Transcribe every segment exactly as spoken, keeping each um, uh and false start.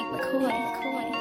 McCoy, McCoy.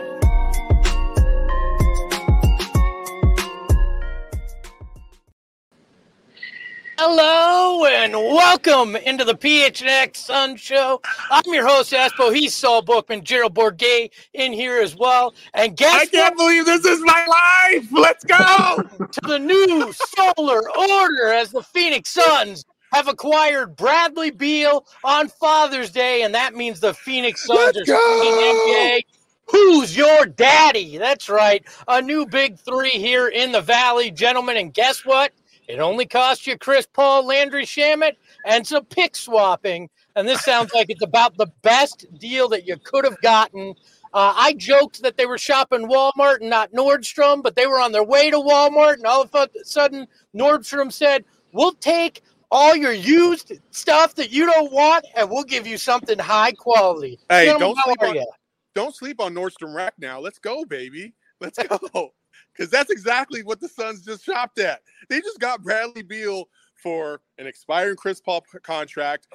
Hello and welcome into the P H N X Sun Show. I'm your host, Espo. He's Saul Bookman, Gerald Bourget in here as well. And guess I can't what? believe this is my life. Let's go to the new solar order as the Phoenix Suns have acquired Bradley Beal on Father's Day, and that means the Phoenix Suns Let's are saying N B A. Who's your daddy? That's right. A new big three here in the Valley, gentlemen. And guess what? It only cost you Chris Paul, Landry Shamet, and some pick swapping. And this sounds like it's about the best deal that you could have gotten. Uh, I joked that they were shopping Walmart and not Nordstrom, but they were on their way to Walmart. And all of a sudden, Nordstrom said, we'll take all your used stuff that you don't want, and we'll give you something high quality. Hey, Gentlemen, don't how sleep are on, you? don't sleep on Nordstrom Rack now. Let's go, baby. Let's go. Because that's exactly what the Suns just shopped at. They just got Bradley Beal for an expiring Chris Paul contract,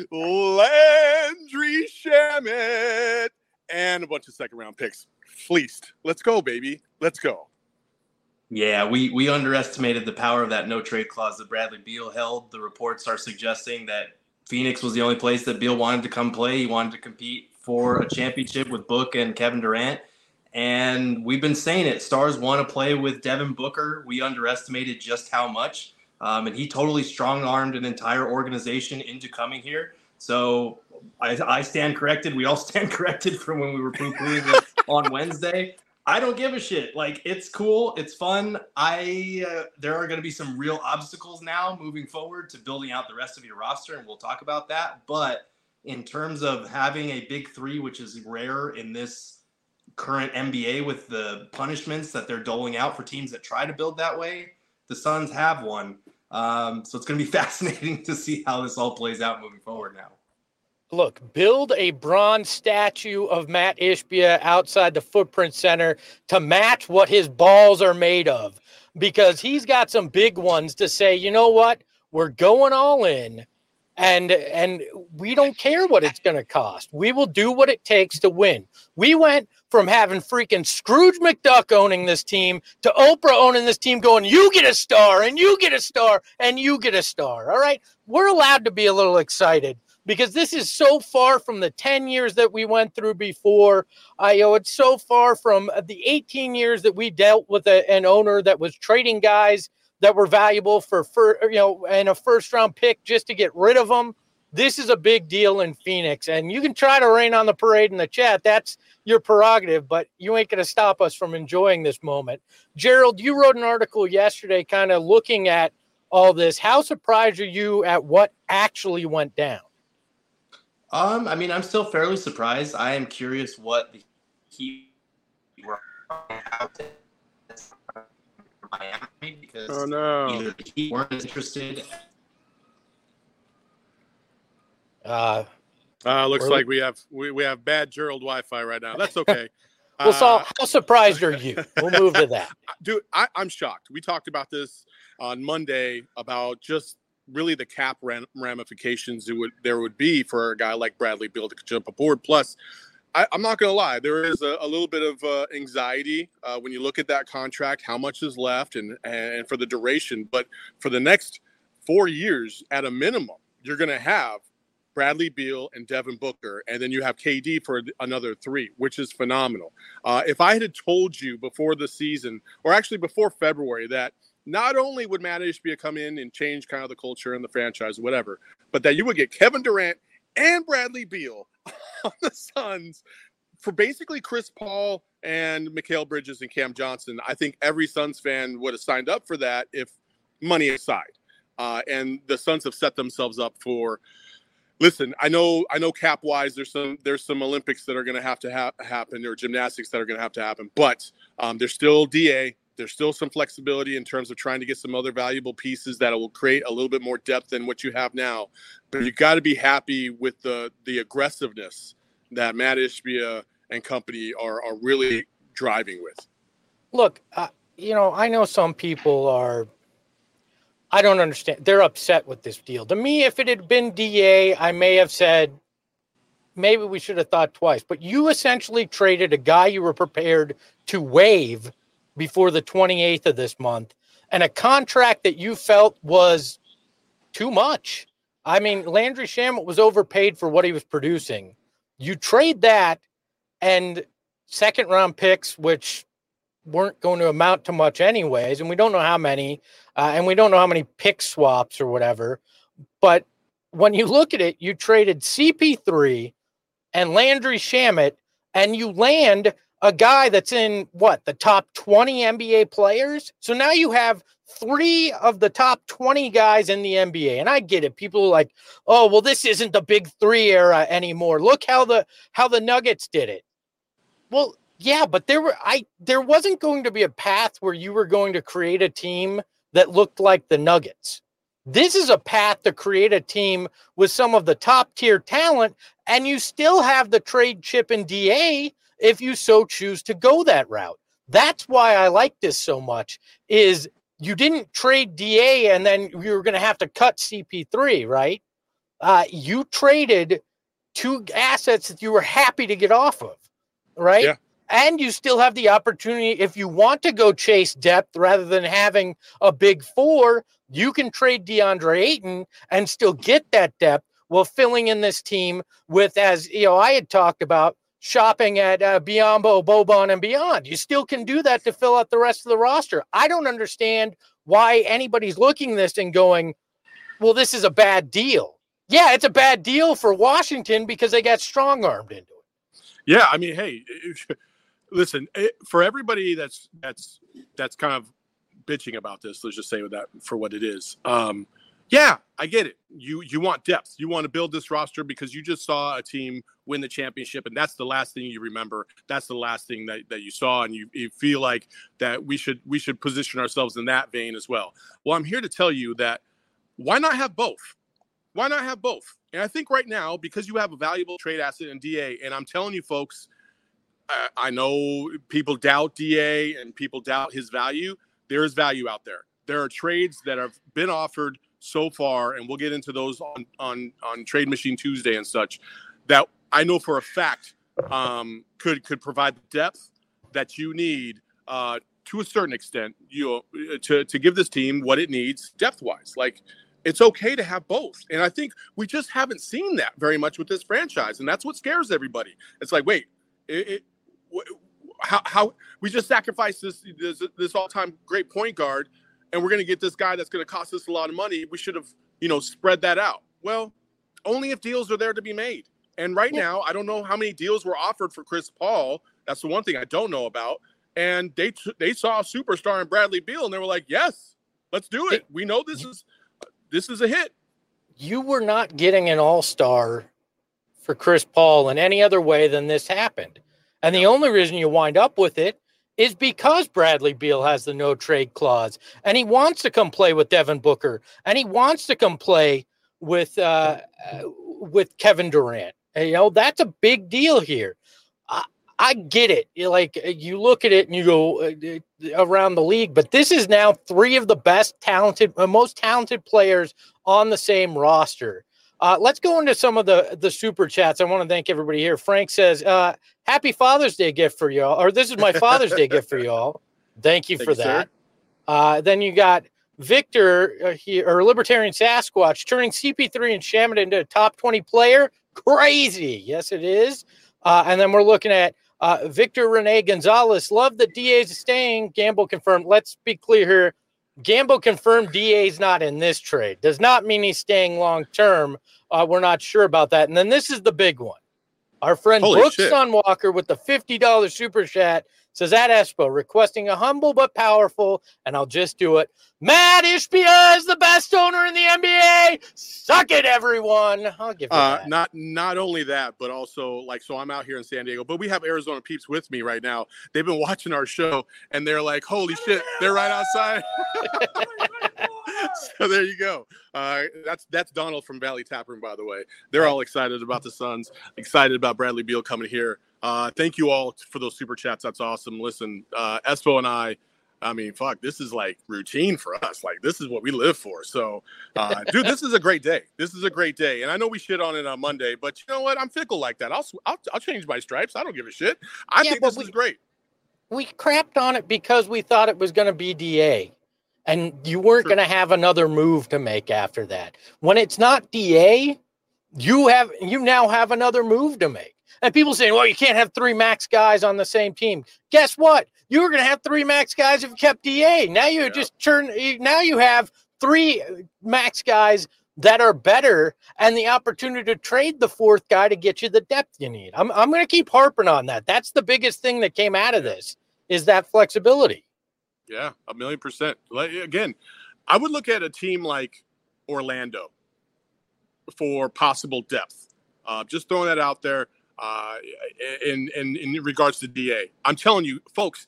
Landry Shamet, and a bunch of second-round picks. Fleeced. Let's go, baby. Let's go. Yeah, we, we underestimated the power of that no-trade clause that Bradley Beal held. The reports are suggesting that Phoenix was the only place that Beal wanted to come play. He wanted to compete for a championship with Book and Kevin Durant. And we've been saying it. Stars want to play with Devin Booker. We underestimated just how much. Um, and he totally strong-armed an entire organization into coming here. So I, I stand corrected. We all stand corrected from when we were poo-pooing it on Wednesday. I don't give a shit. Like, it's cool. It's fun. I uh, there are going to be some real obstacles now moving forward to building out the rest of your roster, and we'll talk about that. But in terms of having a big three, which is rare in this current N B A with the punishments that they're doling out for teams that try to build that way, the Suns have one. Um, so it's going to be fascinating to see how this all plays out moving forward now. Look, build a bronze statue of Matt Ishbia outside the Footprint Center to match what his balls are made of, because he's got some big ones to say, you know what, we're going all in. And and we don't care what it's going to cost. We will do what it takes to win. We went from having freaking Scrooge McDuck owning this team to Oprah owning this team going, you get a star and you get a star and you get a star. All right. We're allowed to be a little excited because this is so far from the ten years that we went through before. Uh, you know, it's so far from the eighteen years that we dealt with a, an owner that was trading guys that were valuable for, for, you know, and a first round pick just to get rid of them. This is a big deal in Phoenix, and you can try to rain on the parade in the chat. That's your prerogative, but you ain't going to stop us from enjoying this moment. Gerald, you wrote an article yesterday kind of looking at all this. How surprised are you at what actually went down? Um, I mean, I'm still fairly surprised. I am curious what the Heat were out to Miami, because oh, no. either the Heat weren't interested. Uh, uh looks like we have we, we have bad Gerald Wi-Fi right now. That's okay. well, uh, Saul, how surprised are you? We'll move to that. Dude, I, I'm shocked. We talked about this on Monday about just really the cap ram- ramifications it would there would be for a guy like Bradley Beal to jump aboard. Plus, I, I'm not going to lie, there is a, a little bit of uh, anxiety uh, when you look at that contract, how much is left and, and for the duration. But for the next four years, at a minimum, you're going to have Bradley Beal and Devin Booker, and then you have K D for another three, which is phenomenal. Uh, if I had told you before the season, or actually before February, that not only would Matt Ishbia come in and change kind of the culture and the franchise, whatever, but that you would get Kevin Durant and Bradley Beal on the Suns for basically Chris Paul and Mikal Bridges and Cam Johnson, I think every Suns fan would have signed up for that, if money aside. Uh, and the Suns have set themselves up for. Listen, I know, I know. Cap wise, there's some there's some Olympics that are going to have to ha- happen, or gymnastics that are going to have to happen. But um, there's still D A. There's still some flexibility in terms of trying to get some other valuable pieces that will create a little bit more depth than what you have now. But you got to be happy with the the aggressiveness that Matt Ishbia and company are are really driving with. Look, uh, you know, I know some people are. I don't understand. They're upset with this deal. To me, if it had been D A, I may have said, maybe we should have thought twice. But you essentially traded a guy you were prepared to waive before the twenty-eighth of this month, and a contract that you felt was too much. I mean, Landry Shamet was overpaid for what he was producing. You trade that and second round picks, which weren't going to amount to much anyways, and we don't know how many, uh, and we don't know how many pick swaps or whatever. But when you look at it, you traded C P three and Landry Shamet, and you land a guy that's in, what, the top twenty N B A players? So now you have three of the top twenty guys in the N B A. And I get it. People are like, oh, well, this isn't the big three era anymore. Look how the how the Nuggets did it. Well, yeah, but there were I there wasn't going to be a path where you were going to create a team that looked like the Nuggets. This is a path to create a team with some of the top tier talent, and you still have the trade chip in D A if you so choose to go that route. That's why I like this so much, is you didn't trade D A and then you were going to have to cut C P three, right? Uh, you traded two assets that you were happy to get off of, right? Yeah. And you still have the opportunity, if you want to go chase depth rather than having a big four, you can trade DeAndre Ayton and still get that depth while filling in this team with, as you know, I had talked about, shopping at uh, Biyombo, Boban, and beyond. You still can do that to fill out the rest of the roster. I don't understand why anybody's looking at this and going, well, this is a bad deal. Yeah, it's a bad deal for Washington because they got strong-armed into it. Yeah, I mean, hey, listen, for everybody that's that's that's kind of bitching about this, let's just say that for what it is. Um, yeah, I get it. You you want depth. You want to build this roster because you just saw a team win the championship, and that's the last thing you remember. That's the last thing that, that you saw, and you, you feel like that we should we should position ourselves in that vein as well. Well, I'm here to tell you that why not have both? Why not have both? And I think right now, because you have a valuable trade asset in D A, and I'm telling you folks, I, I know people doubt D A and people doubt his value. There is value out there. There are trades that have been offered so far, and we'll get into those on, on, on Trade Machine Tuesday and such, that I know for a fact um, could could provide the depth that you need uh, to a certain extent, you know, to to give this team what it needs depth wise. Like, it's okay to have both, and I think we just haven't seen that very much with this franchise, and that's what scares everybody. It's like, wait, it, it, how how we just sacrificed this this, this all time great point guard, and we're going to get this guy that's going to cost us a lot of money. We should have, you know, spread that out. Well, only if deals are there to be made. And right now, I don't know how many deals were offered for Chris Paul. That's the one thing I don't know about. And they t- they saw a superstar in Bradley Beal, and they were like, yes, let's do it. We know this is this is a hit. You were not getting an all-star for Chris Paul in any other way than this happened. And the only reason you wind up with it is because Bradley Beal has the no trade clause, and he wants to come play with Devin Booker, and he wants to come play with uh, with Kevin Durant. And, you know, that's a big deal here. I, I get it. You're like, you look at it and you go uh, around the league, but this is now three of the best talented, uh, most talented players on the same roster. Uh, let's go into some of the, the super chats. I want to thank everybody here. Frank says, uh, happy Father's Day gift for y'all, or this is my Father's Day gift for y'all. Thank you Thank for you, that. Uh, then you got Victor uh, here, or Libertarian Sasquatch, turning C P three and Shamet into a top twenty player. Crazy. Yes, it is. Uh, and then we're looking at uh, Victor Rene Gonzalez. Love that D A is staying. Gamble confirmed. Let's be clear here. Gamble confirmed D A is not in this trade. Does not mean he's staying long term. Uh, we're not sure about that. And then this is the big one. Our friend Holy Brooks shit. Sunwalker with the fifty dollars super chat says, at Espo, requesting a humble but powerful, and I'll just do it. Matt Ishbia is the best owner in the N B A. Suck it, everyone. I'll give you Uh, that. not not only that, but also, like, so I'm out here in San Diego, but we have Arizona peeps with me right now. They've been watching our show, and they're like, holy shit, they're right outside. So there you go. Uh, that's that's Donald from Valley Taproom, by the way. They're all excited about the Suns, excited about Bradley Beal coming here. Uh, thank you all for those super chats. That's awesome. Listen, uh, Espo and I, I mean, fuck, this is like routine for us. Like, this is what we live for. So, uh, dude, this is a great day. This is a great day. And I know we shit on it on Monday, but you know what? I'm fickle like that. I'll I'll, I'll change my stripes. I don't give a shit. I yeah, think this we, is great. We crapped on it because we thought it was going to be D A. And you weren't going to have another move to make after that. When it's not D A, you have you now have another move to make. And people saying, well, you can't have three max guys on the same team. Guess what? You were going to have three max guys if you kept D A. Now you yeah. just turn. Now you have three max guys that are better and the opportunity to trade the fourth guy to get you the depth you need. I'm I'm going to keep harping on that. That's the biggest thing that came out of this is that flexibility. Yeah, a million percent. Again, I would look at a team like Orlando for possible depth. Uh, just throwing that out there. Uh, in, in in regards to D A, I'm telling you, folks,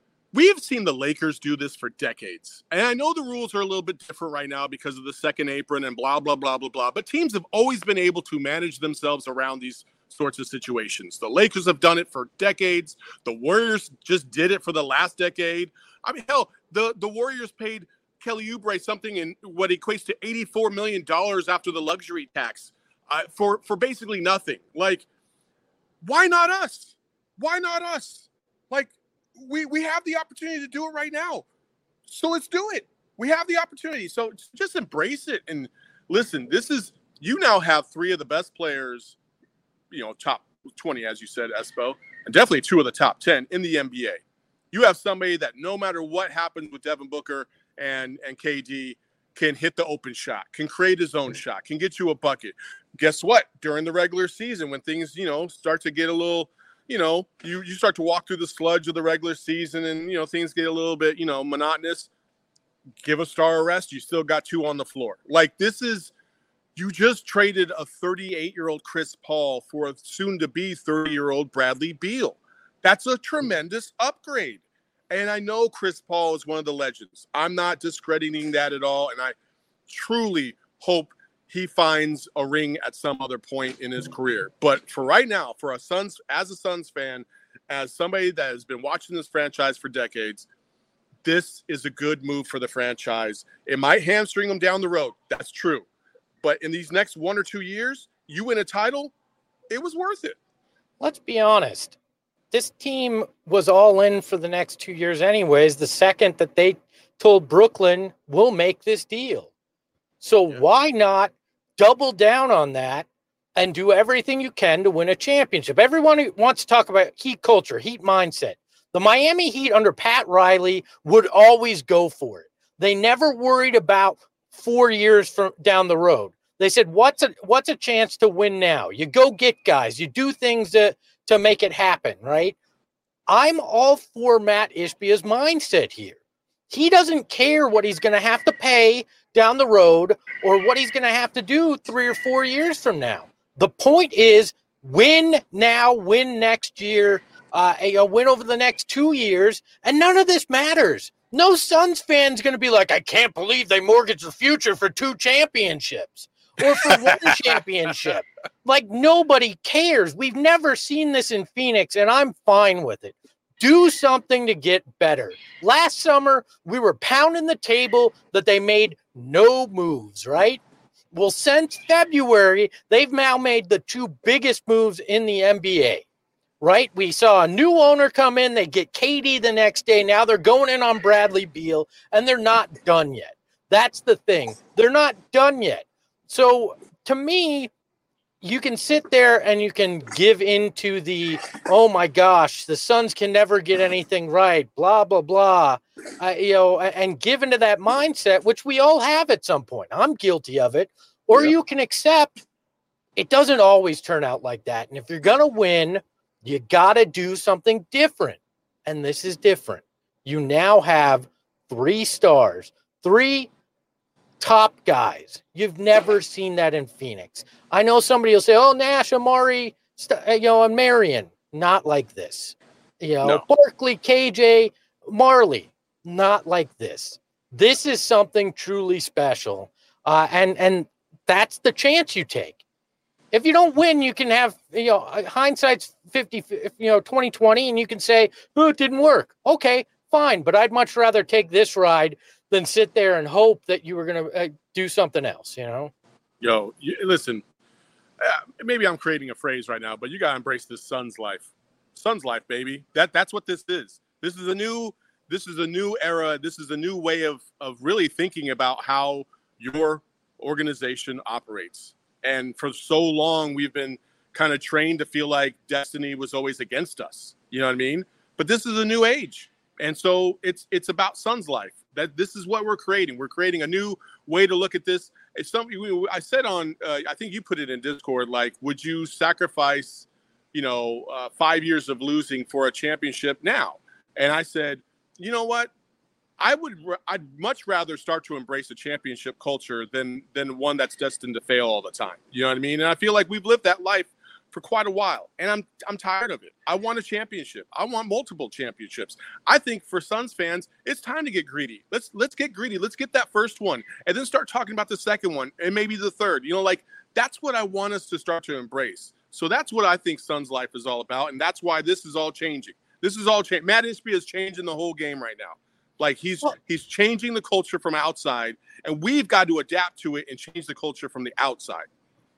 we have seen the Lakers do this for decades. And I know the rules are a little bit different right now because of the second apron and blah, blah, blah, blah, blah. But teams have always been able to manage themselves around these sorts of situations. The Lakers have done it for decades. The Warriors just did it for the last decade. I mean, hell, the, the Warriors paid Kelly Oubre something in what equates to eighty-four million dollars after the luxury tax uh, for, for basically nothing. Like, why not us? Why not us? Like, we, we have the opportunity to do it right now. So let's do it. We have the opportunity. So just embrace it. And listen, this is, you now have three of the best players, you know, top twenty, as you said, Espo, and definitely two of the top ten in the N B A. You have somebody that no matter what happens with Devin Booker and, and K D can hit the open shot, can create his own shot, can get you a bucket. Guess what? During the regular season, when things, you know, start to get a little, you know, you, you start to walk through the sludge of the regular season and, you know, things get a little bit, you know, monotonous, give a star a rest. You still got two on the floor. Like, this is, you just traded a thirty-eight-year-old Chris Paul for a soon-to-be thirty-year-old Bradley Beal. That's a tremendous upgrade. And I know Chris Paul is one of the legends. I'm not discrediting that at all. And I truly hope he finds a ring at some other point in his career. But for right now, for a Suns, as a Suns fan, as somebody that has been watching this franchise for decades, this is a good move for the franchise. It might hamstring them down the road. That's true. But in these next one or two years, you win a title, it was worth it. Let's be honest. This team was all in for the next two years anyways, the second that they told Brooklyn, we'll make this deal. So yeah. Why not double down on that and do everything you can to win a championship? Everyone wants to talk about Heat culture, Heat mindset. The Miami Heat under Pat Riley would always go for it. They never worried about four years from down the road. They said, what's a, what's a chance to win now? You go get guys. You do things to, to make it happen, right? I'm all for Matt Ishbia's mindset here. He doesn't care what he's going to have to pay down the road or what he's going to have to do three or four years from now. The point is win now, win next year, uh, you know, win over the next two years, and none of this matters. No Suns fan's going to be like, I can't believe they mortgaged the future for two championships or for one championship. Like, nobody cares. We've never seen this in Phoenix, and I'm fine with it. Do something to get better. Last summer, we were pounding the table that they made no moves, right? Well, since February, they've now made the two biggest moves in the N B A, right? We saw a new owner come in. They get K D the next day. Now they're going in on Bradley Beal, and they're not done yet. That's the thing. They're not done yet. So to me, you can sit there and you can give into the, oh my gosh, the Suns can never get anything right, blah, blah, blah, uh, you know, and give into that mindset, which we all have at some point. I'm guilty of it. Or yep. You can accept it doesn't always turn out like that. And if you're going to win, you got to do something different. And this is different. You now have three stars, three top guys. You've never seen that in Phoenix. I know somebody will say, oh, Nash, Amari, you know, and Marion. Not like this. You know, no. Barkley, K J, Marley. Not like this. This is something truly special. Uh, and, and that's the chance you take. If you don't win, you can have, you know, hindsight's fifty, you know, twenty twenty, and you can say, oh, it didn't work. Okay, fine, but I'd much rather take this ride than sit there and hope that you were going to uh, do something else, you know? Yo, you, listen, uh, maybe I'm creating a phrase right now, but you got to embrace this Suns life. Suns life, baby. That That's what this is. This is a new this is a new era. This is a new way of, of really thinking about how your organization operates. And for so long, we've been kind of trained to feel like destiny was always against us. You know what I mean? But this is a new age. And so it's it's about Suns life. That this is what we're creating. We're creating a new way to look at this. It's something we, I said on, uh, I think you put it in Discord, like, would you sacrifice, you know, uh, five years of losing for a championship now? And I said, you know what? I would, I'd much rather start to embrace a championship culture than than one that's destined to fail all the time. You know what I mean? And I feel like we've lived that life for quite a while, and I'm I'm tired of it. I want a championship. I want multiple championships. I think for Suns fans, it's time to get greedy. Let's let's get greedy. Let's get that first one, and then start talking about the second one, and maybe the third. You know, like that's what I want us to start to embrace. So that's what I think Suns life is all about, and that's why this is all changing. This is all changing. Matt Ishbia is changing the whole game right now. Like he's he's changing the culture from outside, and we've got to adapt to it and change the culture from the outside.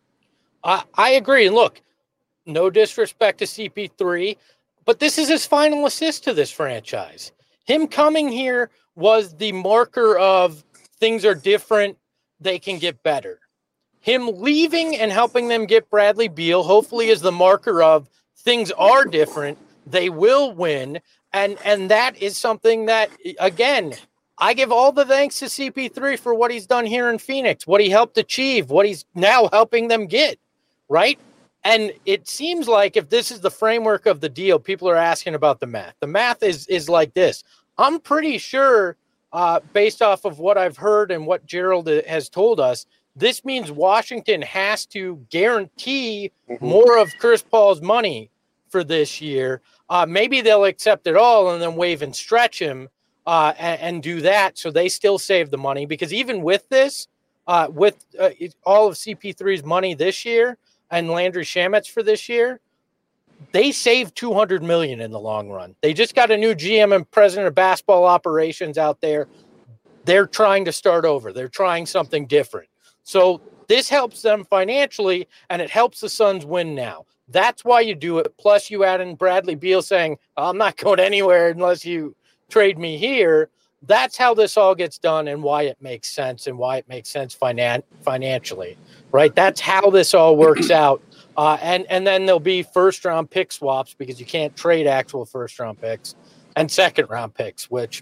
I I agree. And look, no disrespect to C P three, but this is his final assist to this franchise. Him coming here was the marker of things are different. They can get better. Him leaving and helping them get Bradley Beal, hopefully, is the marker of things are different. They will win. And and that is something that, again, I give all the thanks to C P three for what he's done here in Phoenix, what he helped achieve, what he's now helping them get, right? And it seems like if this is the framework of the deal, people are asking about the math. The math is is like this. I'm pretty sure, uh, based off of what I've heard and what Gerald has told us, this means Washington has to guarantee mm-hmm. more of Chris Paul's money for this year. Uh, maybe they'll accept it all and then waive and stretch him uh, and, and do that so they still save the money. Because even with this, uh, with uh, all of C P three's money this year and Landry Shamet's for this year, they saved two hundred million dollars in the long run. They just got a new G M and president of basketball operations out there. They're trying to start over. They're trying something different. So this helps them financially, and it helps the Suns win now. That's why you do it. Plus, you add in Bradley Beal saying, I'm not going anywhere unless you trade me here. That's how this all gets done and why it makes sense and why it makes sense finan- financially, right? That's how this all works out. Uh, and, and then there'll be first-round pick swaps because you can't trade actual first-round picks and second-round picks, which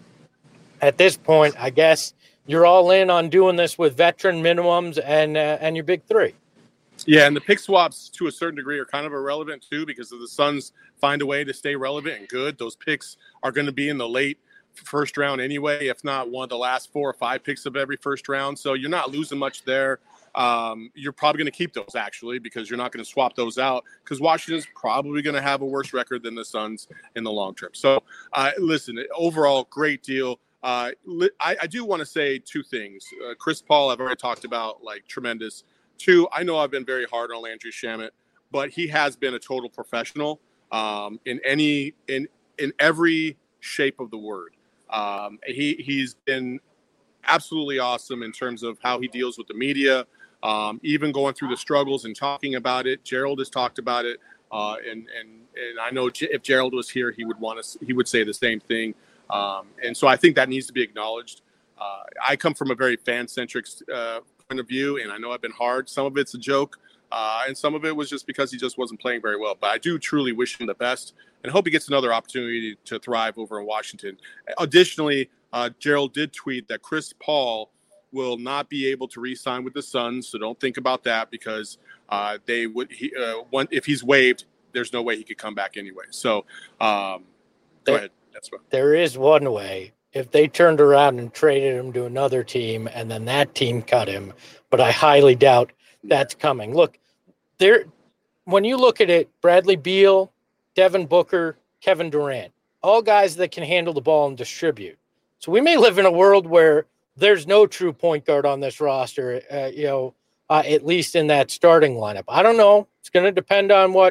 at this point, I guess you're all in on doing this with veteran minimums and uh, and your big three. Yeah, and the pick swaps to a certain degree are kind of irrelevant too because if the Suns find a way to stay relevant and good, those picks are going to be in the late first round anyway, if not one of the last four or five picks of every first round. So you're not losing much there. Um, you're probably going to keep those actually because you're not going to swap those out because Washington's probably going to have a worse record than the Suns in the long term. So uh, listen, overall, great deal. Uh, I, I do want to say two things. Uh, Chris Paul, I've already talked about, like tremendous. Two, I know I've been very hard on Landry Shamet, but he has been a total professional um, in any in in every shape of the word. Um, he he's been absolutely awesome in terms of how he deals with the media, um, even going through the struggles and talking about it. Gerald has talked about it, uh, and and and I know if Gerald was here, he would want to he would say the same thing. Um, and so I think that needs to be acknowledged. Uh, I come from a very fan-centric uh, point of view, and I know I've been hard. Some of it's a joke, uh, and some of it was just because he just wasn't playing very well. But I do truly wish him the best and hope he gets another opportunity to thrive over in Washington. Additionally, uh, Gerald did tweet that Chris Paul will not be able to re-sign with the Suns, so don't think about that because uh, they would. He, uh, one, if he's waived, there's no way he could come back anyway. So um, go ahead. That's what. There is one way. If they turned around and traded him to another team and then that team cut him, but I highly doubt that's coming. Look, there. When you look at it, Bradley Beal, Devin Booker, Kevin Durant, all guys that can handle the ball and distribute. So we may live in a world where there's no true point guard on this roster, uh, you know, uh, at least in that starting lineup. I don't know. It's going to depend on what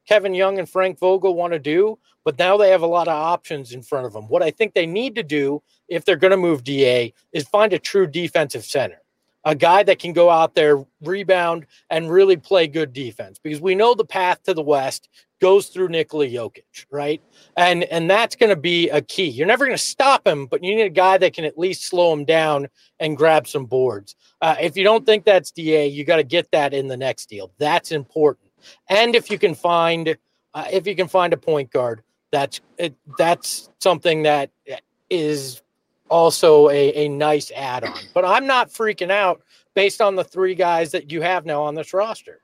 Kevin Young and Frank Vogel want to do, but now they have a lot of options in front of them. What I think they need to do if they're going to move D A is find a true defensive center, a guy that can go out there, rebound, and really play good defense, because we know the path to the West goes through Nikola Jokic, right? And and that's going to be a key. You're never going to stop him, but you need a guy that can at least slow him down and grab some boards. Uh, if you don't think that's D A, you got to get that in the next deal. That's important. And if you can find, uh, if you can find a point guard, that's it, that's something that is also a, a nice add-on. But I'm not freaking out based on the three guys that you have now on this roster.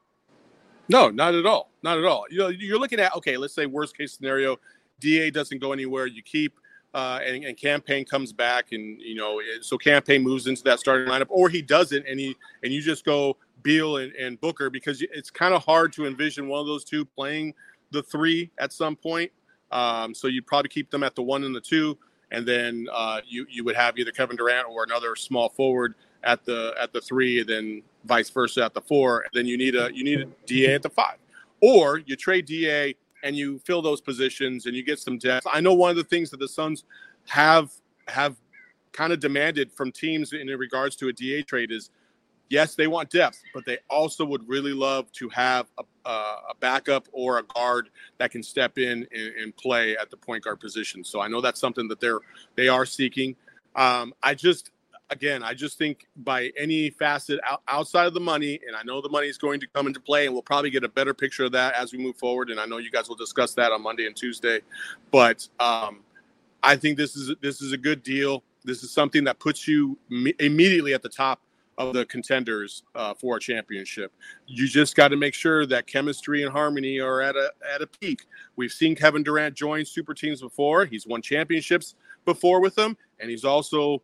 No, not at all. Not at all. You know, you're looking at, okay, let's say worst case scenario, D A doesn't go anywhere. You keep uh, and, and Campaign comes back, and you know, so Campaign moves into that starting lineup, or he doesn't, and he and you just go Beal and, and Booker, because it's kind of hard to envision one of those two playing the three at some point. Um, so you'd probably keep them at the one and the two, and then uh, you you would have either Kevin Durant or another small forward at the at the three, and then vice versa at the four. And then you need a you need a D A at the five, or you trade D A and you fill those positions and you get some depth. I know one of the things that the Suns have have kind of demanded from teams in regards to a D A trade is, yes, they want depth, but they also would really love to have a, a backup or a guard that can step in and, and play at the point guard position. So I know that's something that they're they are seeking. Um, I just. Again, I just think by any facet out, outside of the money, and I know the money is going to come into play, and we'll probably get a better picture of that as we move forward. And I know you guys will discuss that on Monday and Tuesday. But um, I think this is this is a good deal. This is something that puts you me- immediately at the top of the contenders uh, for a championship. You just got to make sure that chemistry and harmony are at a at a peak. We've seen Kevin Durant join super teams before. He's won championships before with them, and he's also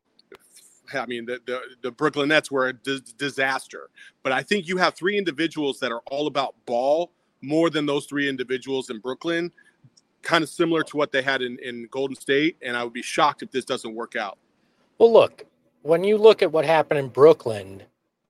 I mean, the, the, the Brooklyn Nets were a d- disaster. But I think you have three individuals that are all about ball more than those three individuals in Brooklyn, kind of similar to what they had in, in Golden State. And I would be shocked if this doesn't work out. Well, look, when you look at what happened in Brooklyn,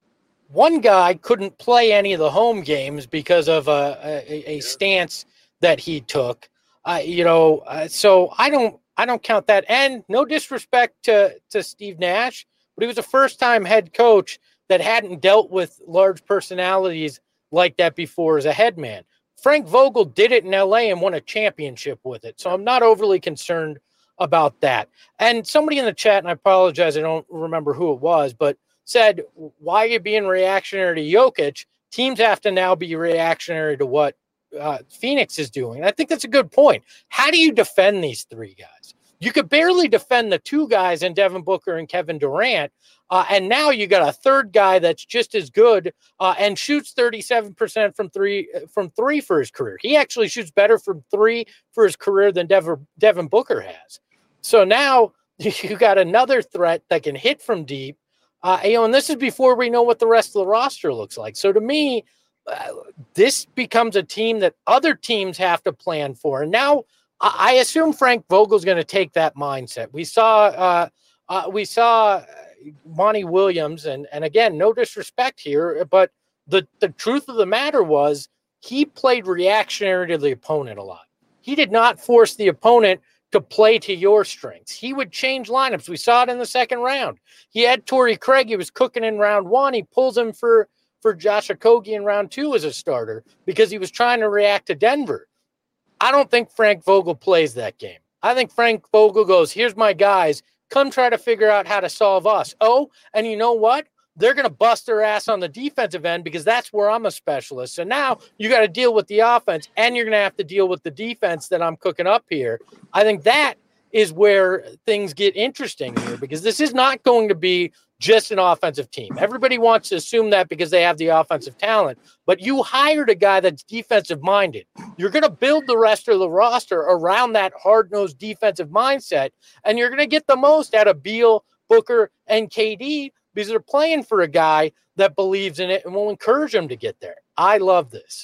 one guy couldn't play any of the home games because of a, a, a stance that he took. Uh, you know, uh, so I don't I don't count that. And no disrespect to, to Steve Nash, but he was a first-time head coach that hadn't dealt with large personalities like that before as a head man. Frank Vogel did it in L A and won a championship with it, so I'm not overly concerned about that. And somebody in the chat, and I apologize, I don't remember who it was, but said, why are you being reactionary to Jokic? Teams have to now be reactionary to what uh, Phoenix is doing. And I think that's a good point. How do you defend these three guys? You could barely defend the two guys in Devin Booker and Kevin Durant. Uh, and now you got a third guy that's just as good uh, and shoots thirty-seven percent from three from three for his career. He actually shoots better from three for his career than Devin, Devin Booker has. So now you got another threat that can hit from deep. Uh, you know, and this is before we know what the rest of the roster looks like. So to me, uh, this becomes a team that other teams have to plan for. And now I assume Frank Vogel's going to take that mindset. We saw, uh, uh, we saw Monty Williams, and and again, no disrespect here, but the the truth of the matter was he played reactionary to the opponent a lot. He did not force the opponent to play to your strengths. He would change lineups. We saw it in the second round. He had Torrey Craig. He was cooking in round one. He pulls him for for Josh Okogie in round two as a starter because he was trying to react to Denver. I don't think Frank Vogel plays that game. I think Frank Vogel goes, here's my guys. Come try to figure out how to solve us. Oh, and you know what? They're going to bust their ass on the defensive end because that's where I'm a specialist. So now you got to deal with the offense, and you're going to have to deal with the defense that I'm cooking up here. I think that is where things get interesting here, because this is not going to be just an offensive team. Everybody wants to assume that because they have the offensive talent, but you hired a guy that's defensive minded. You're going to build the rest of the roster around that hard-nosed defensive mindset, and you're going to get the most out of Beal, Booker, and K D because they're playing for a guy that believes in it and will encourage them to get there. I love this.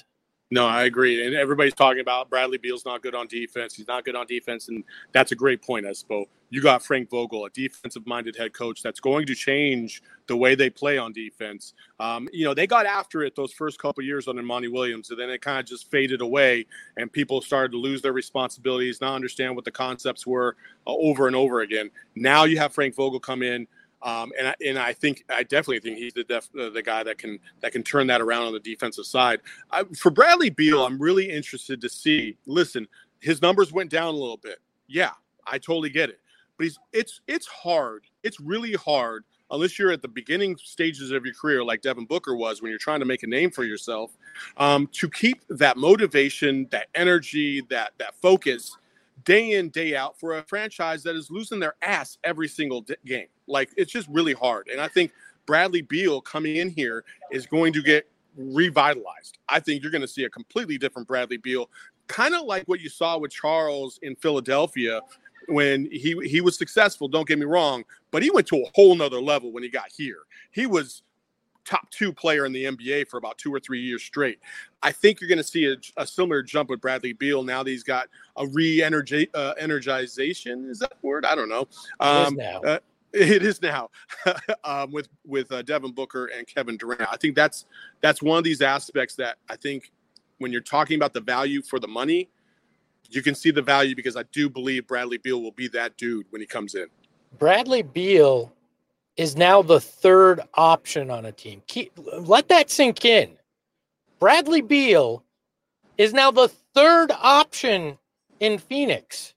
No, I agree. And everybody's talking about Bradley Beal's not good on defense. He's not good on defense. And that's a great point, Espo. You got Frank Vogel, a defensive-minded head coach that's going to change the way they play on defense. Um, you know, they got after it those first couple of years under Monty Williams, and then it kind of just faded away, and people started to lose their responsibilities, not understand what the concepts were uh, over and over again. Now you have Frank Vogel come in. Um, and I, and I think I definitely think he's the def, uh, the guy that can that can turn that around on the defensive side. I, for Bradley Beal, I'm really interested to see. Listen, his numbers went down a little bit. Yeah, I totally get it. But he's it's it's hard. It's really hard unless you're at the beginning stages of your career, like Devin Booker was, when you're trying to make a name for yourself, um, to keep that motivation, that energy, that that focus day in, day out for a franchise that is losing their ass every single d- game. Like, it's just really hard. And I think Bradley Beal coming in here is going to get revitalized. I think you're going to see a completely different Bradley Beal, kind of like what you saw with Charles in Philadelphia when he, he was successful, don't get me wrong, but he went to a whole nother level when he got here. He was top two player in the N B A for about two or three years straight. I think you're going to see a, a similar jump with Bradley Beal now that he's got a re-energization. Uh, energization. Is that the word? I don't know. Um, it is now. Uh, it is now um, with with uh, Devin Booker and Kevin Durant. I think that's that's one of these aspects that I think when you're talking about the value for the money, you can see the value because I do believe Bradley Beal will be that dude when he comes in. Bradley Beal is now the third option on a team. Keep, let that sink in. Bradley Beal is now the third option in Phoenix.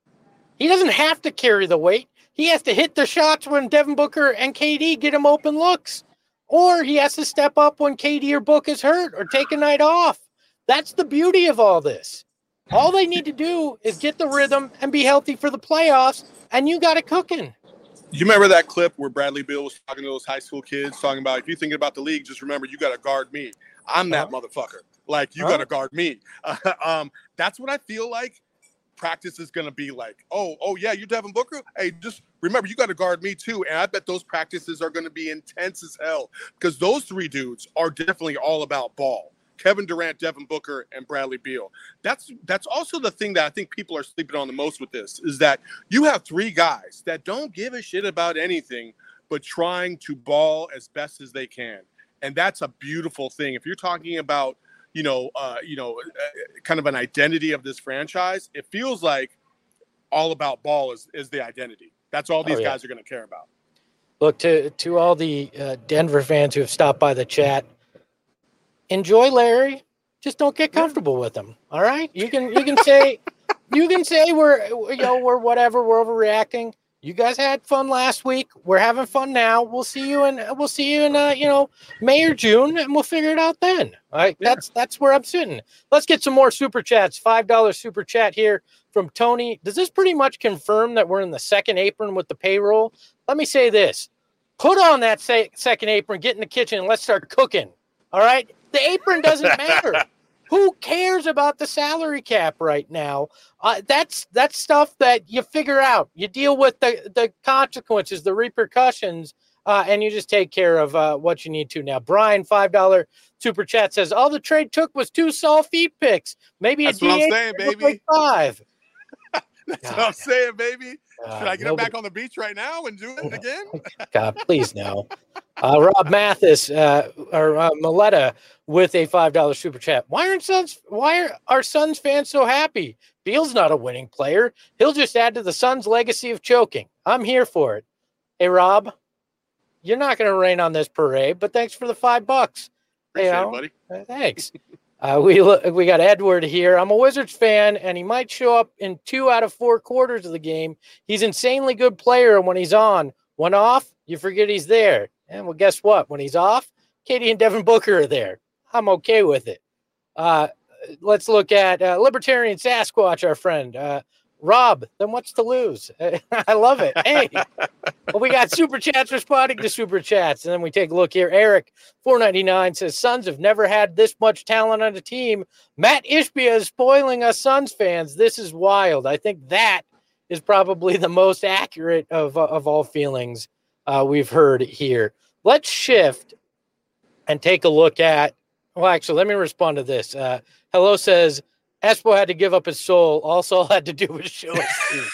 He doesn't have to carry the weight. He has to hit the shots when Devin Booker and K D get him open looks. Or he has to step up when K D or Book is hurt or take a night off. That's the beauty of all this. All they need to do is get the rhythm and be healthy for the playoffs, and you got it cooking. You remember that clip where Bradley Beal was talking to those high school kids, talking about, if you're thinking about the league, just remember you got to guard me. I'm that uh-huh. motherfucker. Like, you uh-huh. got to guard me. Uh, um, that's what I feel like practice is going to be like. Oh, oh yeah, you're Devin Booker? Hey, just remember, you got to guard me too. And I bet those practices are going to be intense as hell because those three dudes are definitely all about ball. Kevin Durant, Devin Booker, and Bradley Beal. That's that's also the thing that I think people are sleeping on the most with this, is that you have three guys that don't give a shit about anything but trying to ball as best as they can. And that's a beautiful thing. If you're talking about, you know, uh, you know, uh, kind of an identity of this franchise, it feels like all about ball is, is the identity. That's all these oh, yeah. guys are going to care about. Look, to, to all the uh, Denver fans who have stopped by the chat, enjoy Larry. Just don't get comfortable with him. All right. You can, you can say, you can say we're, you know, we're whatever, we're overreacting. You guys had fun last week. We're having fun now. We'll see you in, we'll see you in, uh, you know, May or June, and we'll figure it out then. All right. Yeah. That's, that's where I'm sitting. Let's get some more super chats. five dollars super chat here from Tony. Does this pretty much confirm that we're in the second apron with the payroll? Let me say this. Put on that say, second apron, get in the kitchen, and let's start cooking. All right. The apron doesn't matter. Who cares about the salary cap right now? Uh, that's that's stuff that you figure out. You deal with the, the consequences, the repercussions, uh, and you just take care of uh, what you need to. Now, Brian, five dollars super chat says, all the trade took was two Saul feet picks. Maybe that's a what D H I'm saying, baby. Like five. That's God. What I'm saying, baby. Uh, Should I get nobody... him back on the beach right now and do it again? God, please no. Uh, Rob Mathis uh, or uh, Maletta with a five dollars super chat. Why aren't Suns? Why are our Suns fans so happy? Beal's not a winning player. He'll just add to the Suns' legacy of choking. I'm here for it. Hey, Rob, you're not going to rain on this parade, but thanks for the five bucks. Appreciate you know, it, buddy. Uh, thanks. Uh, we we got Edward here. I'm a Wizards fan, and he might show up in two out of four quarters of the game. He's insanely good player when he's on. When off, you forget he's there. And well, guess what? When he's off, K D and Devin Booker are there. I'm okay with it. Uh, let's look at uh, Libertarian Sasquatch, our friend. Uh, Rob, then what's to lose? I love it. Hey, well, we got super chats responding to super chats. And then we take a look here. Eric, four ninety-nine, says, Suns have never had this much talent on a team. Matt Ishbia is spoiling us Suns fans. This is wild. I think that is probably the most accurate of, of all feelings uh, we've heard here. Let's shift and take a look at, well, actually, let me respond to this. Uh, Hello says, Espo had to give up his soul. Also had to do with show his teeth.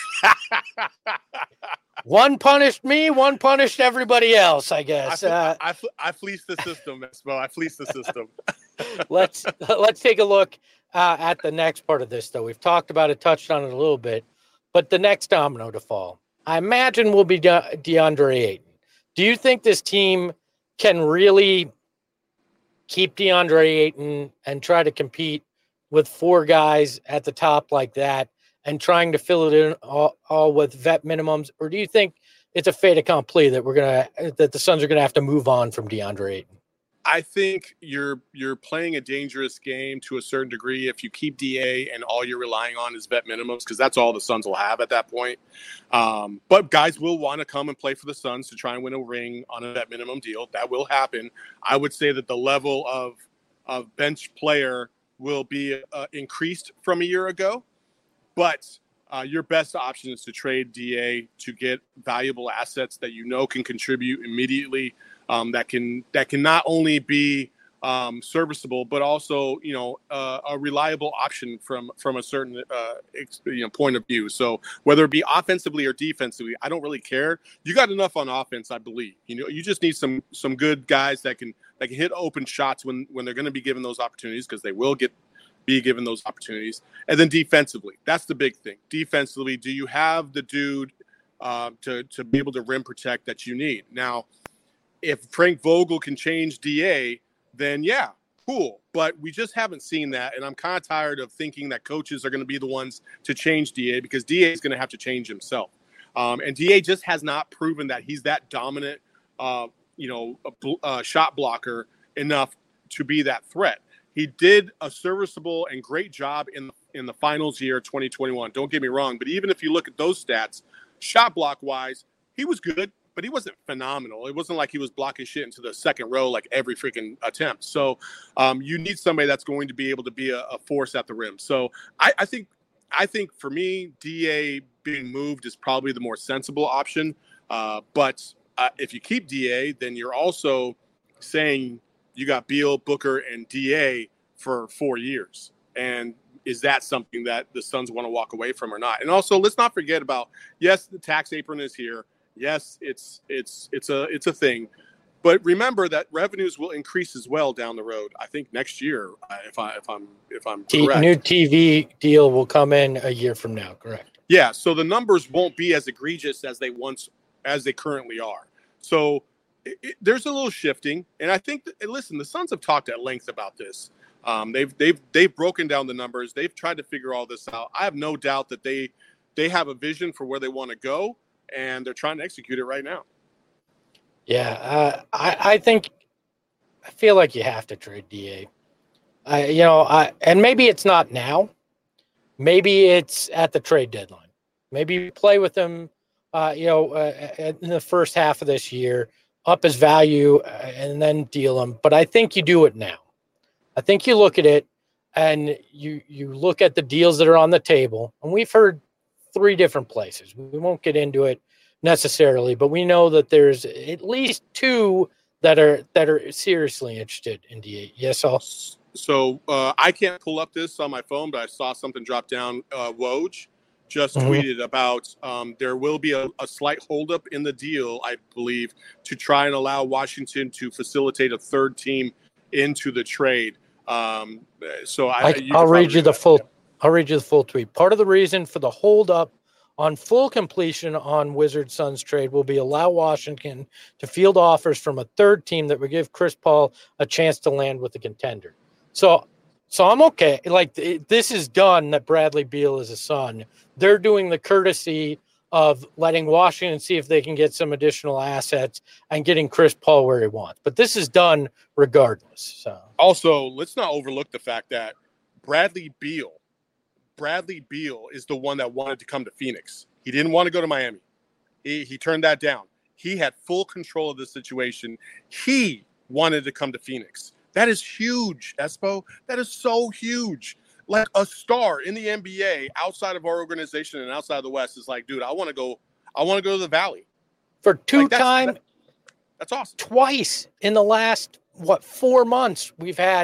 One punished me, one punished everybody else, I guess. I, uh, I, I, I fleeced the system, Espo. I fleeced the system. let's let's take a look uh, at the next part of this, though. We've talked about it, touched on it a little bit, but the next domino to fall, I imagine, will be De- DeAndre Ayton. Do you think this team can really keep DeAndre Ayton and try to compete with four guys at the top like that and trying to fill it in all, all with vet minimums? Or do you think it's a fait accompli that we're going to, that the Suns are going to have to move on from DeAndre Ayton? I think you're you're playing a dangerous game to a certain degree if you keep D A and all you're relying on is vet minimums, because that's all the Suns will have at that point. Um, but guys will want to come and play for the Suns to try and win a ring on a vet minimum deal. That will happen. I would say that the level of of bench player will be uh, increased from a year ago, but uh, your best option is to trade D A to get valuable assets that you know can contribute immediately. Um, that can that can not only be um, serviceable, but also you know uh, a reliable option from from a certain uh, ex, you know point of view. So whether it be offensively or defensively, I don't really care. You got enough on offense, I believe. You know, you just need some some good guys that can that can hit open shots when when they're going to be given those opportunities, because they will get be given those opportunities. And then defensively, that's the big thing. Defensively, do you have the dude uh, to to be able to rim protect that you need now? If Frank Vogel can change D A, then yeah, cool. But we just haven't seen that. And I'm kind of tired of thinking that coaches are going to be the ones to change D A, because D A is going to have to change himself. Um, and D A just has not proven that he's that dominant, uh, you know, a, a shot blocker enough to be that threat. He did a serviceable and great job in, in the finals year twenty twenty-one. Don't get me wrong. But even if you look at those stats, shot block wise, he was good, but he wasn't phenomenal. It wasn't like he was blocking shit into the second row like every freaking attempt. So um, you need somebody that's going to be able to be a, a force at the rim. So I, I think I think for me, D A being moved is probably the more sensible option. Uh, but uh, if you keep D A, then you're also saying you got Beal, Booker, and D A for four years. And is that something that the Suns want to walk away from or not? And also, let's not forget about, yes, the tax apron is here. Yes, it's it's it's a it's a thing, but remember that revenues will increase as well down the road. I think next year, uh, if I if I'm if I'm T- correct, new T V deal will come in a year from now. Correct. Yeah, so the numbers won't be as egregious as they once as they currently are. So it, it, there's a little shifting, and I think that, listen, the Suns have talked at length about this. Um, they've they've they've broken down the numbers. They've tried to figure all this out. I have no doubt that they they have a vision for where they want to go, and they're trying to execute it right now. Yeah, uh, I, I think I feel like you have to trade D A. I, you know, I and maybe it's not now. Maybe it's at the trade deadline. Maybe you play with him, uh, you know, uh, in the first half of this year, up his value, uh, and then deal him. But I think you do it now. I think you look at it and you you look at the deals that are on the table, and we've heard three different places. We won't get into it necessarily, but we know that there's at least two that are that are seriously interested in D A. Yes, I'll. So uh, I can't pull up this on my phone, but I saw something drop down. Uh, Woj just Mhm. tweeted about um, there will be a, a slight holdup in the deal, I believe, to try and allow Washington to facilitate a third team into the trade. Um, so I, I, you I'll can read you the that. full. I'll read you the full tweet. Part of the reason for the holdup on full completion on Wizards Suns trade will be allow Washington to field offers from a third team that would give Chris Paul a chance to land with a contender. So, so I'm okay. Like it, this is done. That Bradley Beal is a Sun. They're doing the courtesy of letting Washington see if they can get some additional assets and getting Chris Paul where he wants. But this is done regardless. So also, let's not overlook the fact that Bradley Beal, Bradley Beal is the one that wanted to come to Phoenix. He didn't want to go to Miami. He, he turned that down. He had full control of the situation. He wanted to come to Phoenix. That is huge, Espo. That is so huge. Like a star in the N B A outside of our organization and outside of the West is like, dude, I want to go. I want to go to the Valley. For two like that's, time, that, that's awesome. Twice in the last what four months, we've had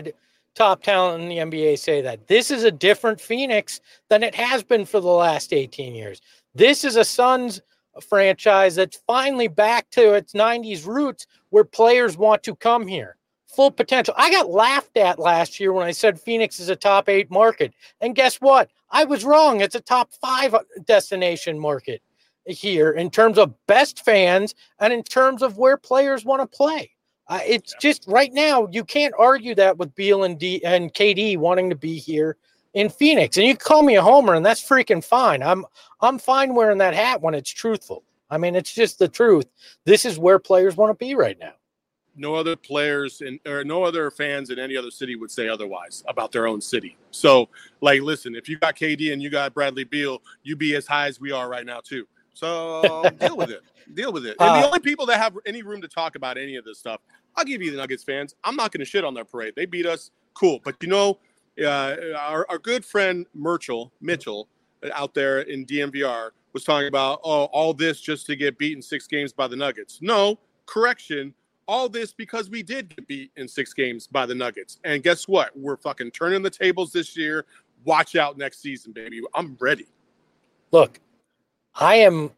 top talent in the N B A say that. This is a different Phoenix than it has been for the last eighteen years. This is a Suns franchise that's finally back to its nineties roots where players want to come here. Full potential. I got laughed at last year when I said Phoenix is a top eight market. And guess what? I was wrong. It's a top five destination market here in terms of best fans and in terms of where players want to play. Uh, it's yeah. just right now, you can't argue that with Beal and D and K D wanting to be here in Phoenix. And you can call me a homer, and that's freaking fine. I'm I'm fine wearing that hat when it's truthful. I mean, it's just the truth. This is where players want to be right now. No other players in, or no other fans in any other city would say otherwise about their own city. So, like, listen, if you got K D and you got Bradley Beal, you be as high as we are right now too. So deal with it. Deal with it. And uh, the only people that have any room to talk about any of this stuff, I'll give you the Nuggets fans. I'm not going to shit on their parade. They beat us. Cool. But, you know, uh, our, our good friend Mitchell, Mitchell out there in D M V R was talking about, oh, all this just to get beaten six games by the Nuggets. No, correction. All this because we did get beat in six games by the Nuggets. And guess what? We're fucking turning the tables this year. Watch out next season, baby. I'm ready. Look, I am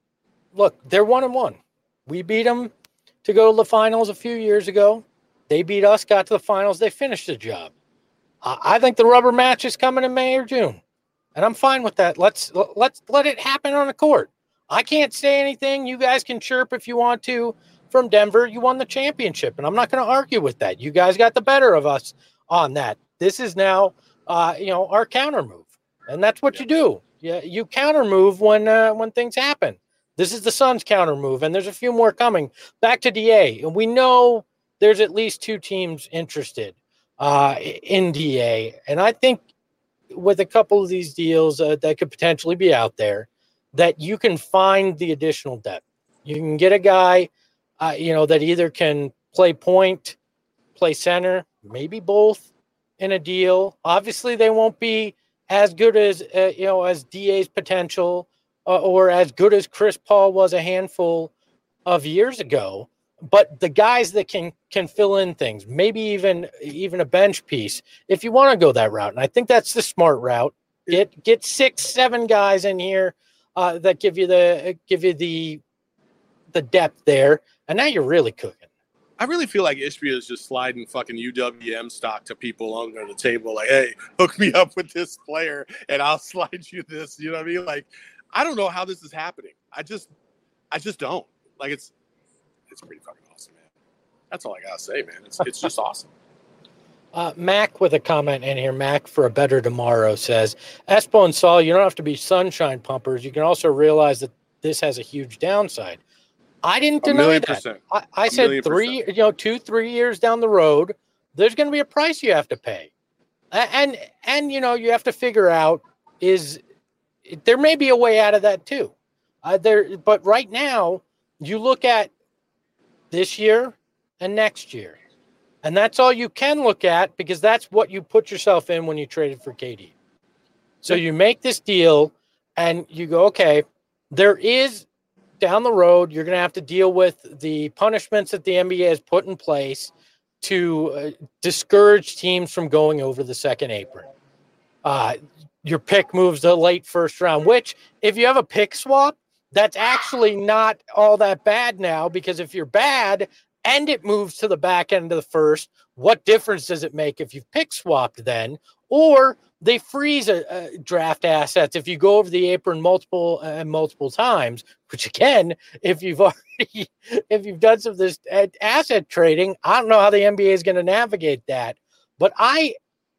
– look, they're one and one. We beat them to go to the finals a few years ago. They beat us, got to the finals. They finished the job. I, I think the rubber match is coming in May or June, and I'm fine with that. Let's let's let it happen on the court. I can't say anything. You guys can chirp if you want to. From Denver, you won the championship, and I'm not going to argue with that. You guys got the better of us on that. This is now, uh, you know, our counter move, and that's what yeah. you do. Yeah, you counter move when uh, when things happen. This is the Suns counter move, and there's a few more coming. Back to D A, and we know there's at least two teams interested uh, in D A, and I think with a couple of these deals uh, that could potentially be out there, that you can find the additional depth. You can get a guy. Uh, you know, that either can play point, play center, maybe both in a deal. Obviously, they won't be as good as, uh, you know, as D A's potential uh, or as good as Chris Paul was a handful of years ago. But the guys that can can fill in things, maybe even even a bench piece, if you want to go that route. And I think that's the smart route. Get get six, seven guys in here uh, that give you the give you the the depth there. And now you're really cooking. I really feel like Ishbia is just sliding fucking U W M stock to people under the table. Like, hey, hook me up with this player and I'll slide you this. You know what I mean? Like, I don't know how this is happening. I just, I just don't. Like, it's, it's pretty fucking awesome, man. That's all I gotta say, man. It's, it's just awesome. Uh, Mac with a comment in here. Mac for a better tomorrow says, Espo and Saul, you don't have to be sunshine pumpers. You can also realize that this has a huge downside. I didn't deny that. Percent. I, I said three, percent. you know, two, three years down the road, there's going to be a price you have to pay. And, and, you know, you have to figure out is there may be a way out of that too. Uh, there, but right now you look at this year and next year, and that's all you can look at because that's what you put yourself in when you traded for K D. So you make this deal and you go, okay, there is, down the road, you're going to have to deal with the punishments that the N B A has put in place to uh, discourage teams from going over the second apron. Uh, your pick moves to late first round, which if you have a pick swap, that's actually not all that bad now because if you're bad and it moves to the back end of the first, what difference does it make if you've pick swapped then? Or they freeze a, a draft assets if you go over the apron multiple and uh, multiple times, which again, if you've already, if you've done some of this asset trading, I don't know how the N B A is going to navigate that, but I,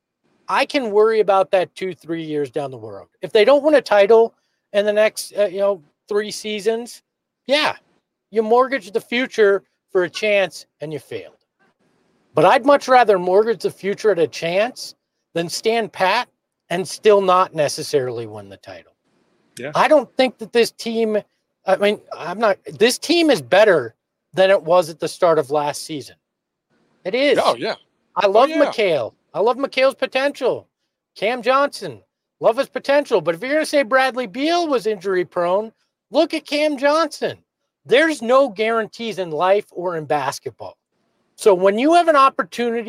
I can worry about that two, three years down the road. If they don't win a title in the next, uh, you know, three seasons, yeah, you mortgage the future for a chance and you failed. But I'd much rather mortgage the future at a chance than stand pat and still not necessarily win the title. Yeah. I don't think that this team, I mean, I'm not, this team is better than it was at the start of last season. It is. Oh, yeah. I love oh, yeah. McHale. I love McHale's potential. Cam Johnson, love his potential. But if you're going to say Bradley Beal was injury prone, look at Cam Johnson. There's no guarantees in life or in basketball. So when you have an opportunity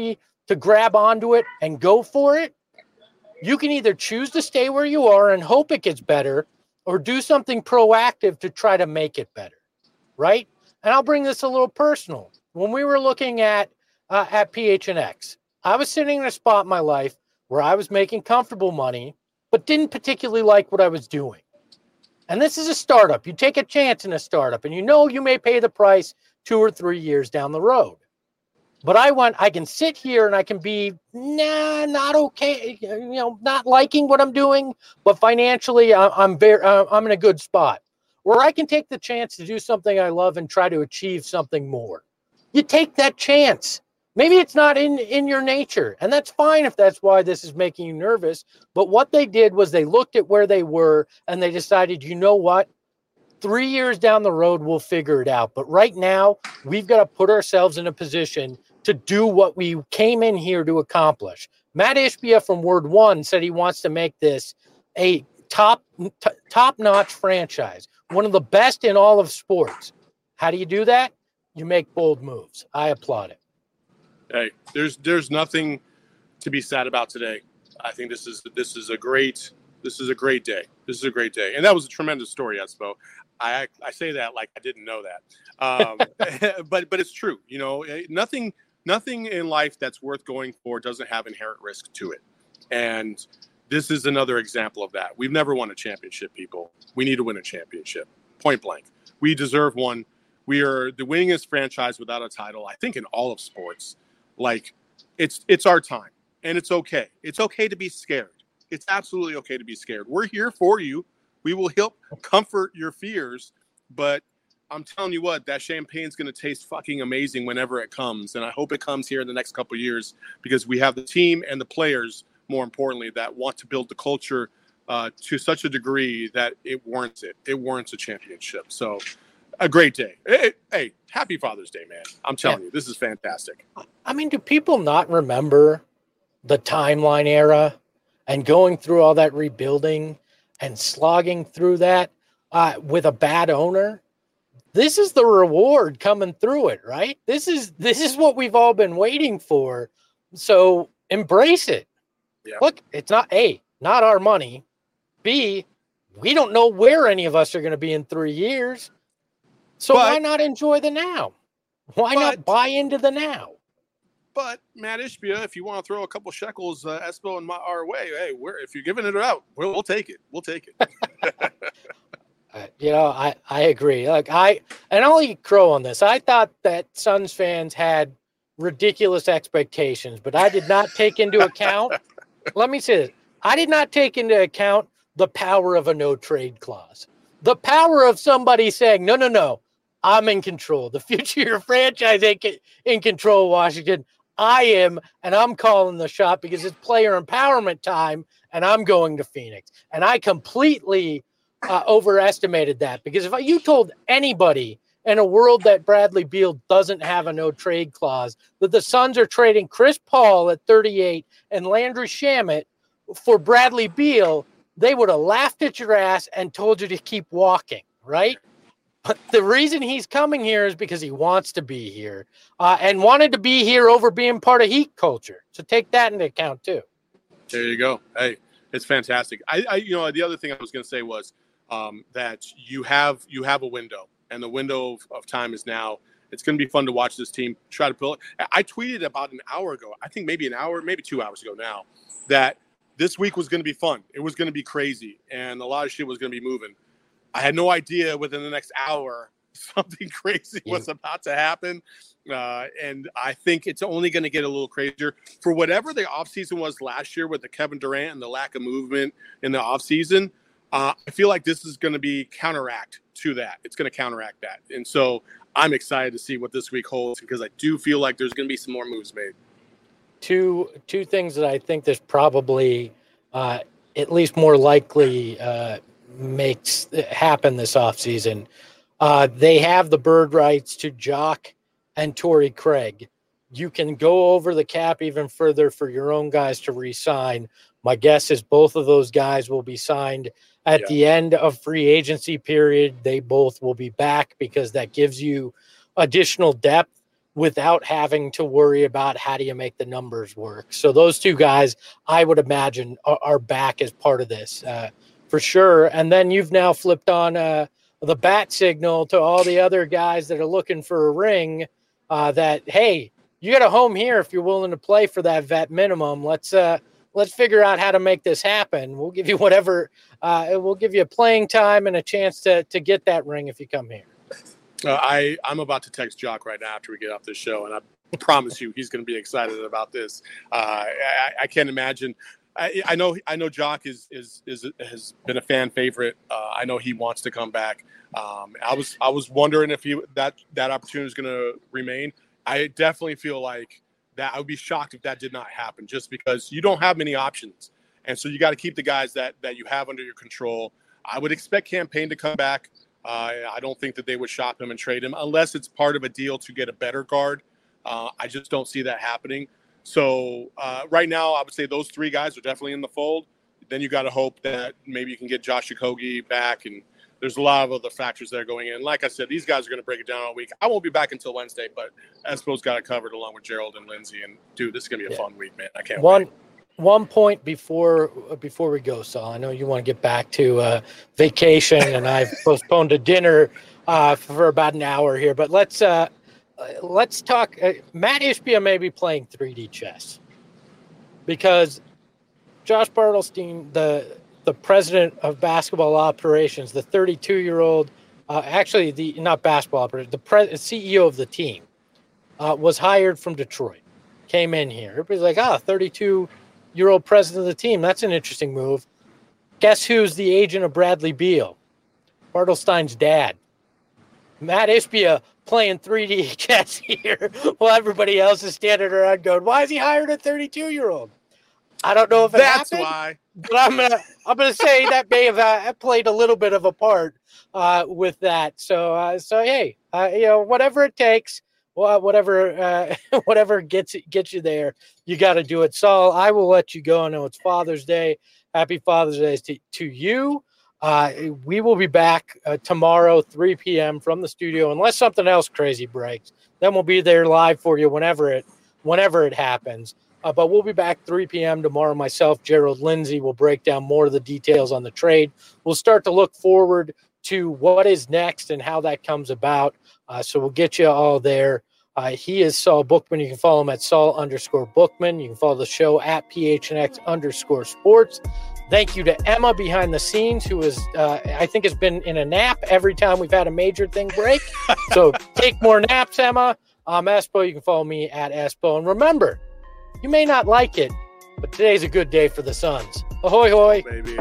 to grab onto it and go for it, you can either choose to stay where you are and hope it gets better or do something proactive to try to make it better, right? And I'll bring this a little personal. When we were looking at uh, at P H N X, I was sitting in a spot in my life where I was making comfortable money, but didn't particularly like what I was doing. And this is a startup. You take a chance in a startup, and you know you may pay the price two or three years down the road. But I went, I can sit here and I can be, nah, not okay, you know, not liking what I'm doing, but financially I, I'm very, uh, I'm in a good spot where I can take the chance to do something I love and try to achieve something more. You take that chance. Maybe it's not in, in your nature, and that's fine if that's why this is making you nervous. But what they did was they looked at where they were and they decided, you know what? Three years down the road, we'll figure it out. But right now, we've got to put ourselves in a position to do what we came in here to accomplish. Matt Ishbia from Word One said he wants to make this a top, t- top-notch franchise, one of the best in all of sports. How do you do that? You make bold moves. I applaud it. Hey, there's there's nothing to be sad about today. I think this is this is a great this is a great day. This is a great day, and that was a tremendous story, Espo. I I say that like I didn't know that, um, but but it's true. You know, nothing nothing in life that's worth going for doesn't have inherent risk to it, and this is another example of that. We've never won a championship, people. We need to win a championship, point blank. We deserve one. We are the winningest franchise without a title, I think, in all of sports. Like, it's it's our time, and it's okay. It's okay to be scared. It's absolutely okay to be scared. We're here for you. We will help comfort your fears, but I'm telling you what, that champagne's going to taste fucking amazing whenever it comes, and I hope it comes here in the next couple of years because we have the team and the players, more importantly, that want to build the culture uh, to such a degree that it warrants it. It warrants a championship. So, a great day. Hey, hey, happy Father's Day, man. I'm telling yeah. you, this is fantastic. I mean, do people not remember the timeline era and going through all that rebuilding and slogging through that uh, with a bad owner? This is the reward coming through it, right? This is this is what we've all been waiting for. So embrace it. Yeah. Look, it's not A, not our money. B, we don't know where any of us are going to be in three years. So but, why not enjoy the now? Why but, not buy into the now? But Matt Ishbia, if you want to throw a couple shekels, uh, Espo and my our way, hey, we're if you're giving it out, we'll, we'll take it. We'll take it. uh, you know, I I agree. Like I and I'll eat crow on this. I thought that Suns fans had ridiculous expectations, but I did not take into account. Let me say this: I did not take into account the power of a no trade clause, the power of somebody saying, "No, no, no." I'm in control. The future of your franchise ain't in control, Washington. I am, and I'm calling the shot because it's player empowerment time, and I'm going to Phoenix. And I completely uh, overestimated that because if you told anybody in a world that Bradley Beal doesn't have a no-trade clause, that the Suns are trading Chris Paul at thirty-eight and Landry Shamet for Bradley Beal, they would have laughed at your ass and told you to keep walking, right? But the reason he's coming here is because he wants to be here uh, and wanted to be here over being part of Heat culture. So take that into account too. There you go. Hey, it's fantastic. I, I you know, the other thing I was going to say was um, that you have you have a window, and the window of, of time is now. It's going to be fun to watch this team try to build. I tweeted about an hour ago, I think maybe an hour, maybe two hours ago now, that this week was going to be fun. It was going to be crazy, and a lot of shit was going to be moving. I had no idea within the next hour something crazy yeah. was about to happen. Uh, and I think it's only going to get a little crazier. For whatever the offseason was last year with the Kevin Durant and the lack of movement in the offseason, uh, I feel like this is going to be counteract to that. It's going to counteract that. And so I'm excited to see what this week holds because I do feel like there's going to be some more moves made. Two, two things that I think there's probably uh, at least more likely uh, makes happen this offseason. Uh, they have the bird rights to Jock and Torrey Craig. You can go over the cap even further for your own guys to re-sign. My guess is both of those guys will be signed at yeah. the end of free agency period. They both will be back because that gives you additional depth. without having to worry about how do you make the numbers work. So those two guys, I would imagine, are, are back as part of this uh, for sure. And then you've now flipped on uh, the bat signal to all the other guys that are looking for a ring uh, that, hey, you got a home here if you're willing to play for that vet minimum. Let's uh, let's figure out how to make this happen. We'll give you whatever. Uh, we'll give you playing time and a chance to to get that ring if you come here. Uh, I, I'm about to text Jock right now after we get off this show, and I promise you he's going to be excited about this. Uh, I, I can't imagine. I, I know I know Jock is, is is has been a fan favorite. Uh, I know he wants to come back. Um, I was I was wondering if he that that opportunity is going to remain. I definitely feel like that. I would be shocked if that did not happen, just because you don't have many options, and so you got to keep the guys that that you have under your control. I would expect Cam Payne to come back. Uh, I don't think that they would shop him and trade him unless it's part of a deal to get a better guard. Uh, I just don't see that happening. So uh, right now, I would say those three guys are definitely in the fold. Then you got to hope that maybe you can get Josh Okogie back, and there's a lot of other factors that are going in. Like I said, these guys are going to break it down all week. I won't be back until Wednesday, but Espo's got it covered along with Gerald and Lindsay. And dude, this is going to be a yeah. fun week, man. I can't One. wait. One point before before we go, Saul. I know you want to get back to uh, vacation, and I've postponed a dinner uh, for about an hour here. But let's uh, let's talk. Uh, Matt Ishbia may be playing three D chess because Josh Bartelstein, the the president of basketball operations, the thirty-two-year-old, uh, actually the not basketball operations, the pre- C E O of the team, uh, was hired from Detroit. Came in here. Everybody's like, ah, thirty-two. Year old president of the team. That's an interesting move. Guess who's the agent of Bradley Beal? Bartelstein's dad. Matt Ishbia playing three D chess here while everybody else is standing around going, why is he hired a thirty-two-year-old? I don't know if it That's happened, why. but I'm gonna I'm gonna say that may have uh, played a little bit of a part uh, with that. So uh, so hey, uh, you know, whatever it takes. Well, whatever, uh, whatever gets gets you there, you got to do it. Saul, I will let you go. I know it's Father's Day. Happy Father's Day to, to you. Uh, we will be back uh, tomorrow, three p.m. from the studio, unless something else crazy breaks. Then we'll be there live for you whenever it whenever it happens. Uh, but we'll be back three p.m. tomorrow. Myself, Gerald, Lindsay will break down more of the details on the trade. We'll start to look forward to what is next and how that comes about. Uh, so we'll get you all there. Uh, he is Saul Bookman. You can follow him at Saul underscore Bookman. You can follow the show at P H N X underscore sports. Thank you to Emma behind the scenes, who is, uh, I think has been in a nap every time we've had a major thing break. So take more naps, Emma. I'm Espo. You can follow me at Espo. And remember, you may not like it, but today's a good day for the Suns. Ahoy, hoy. Baby.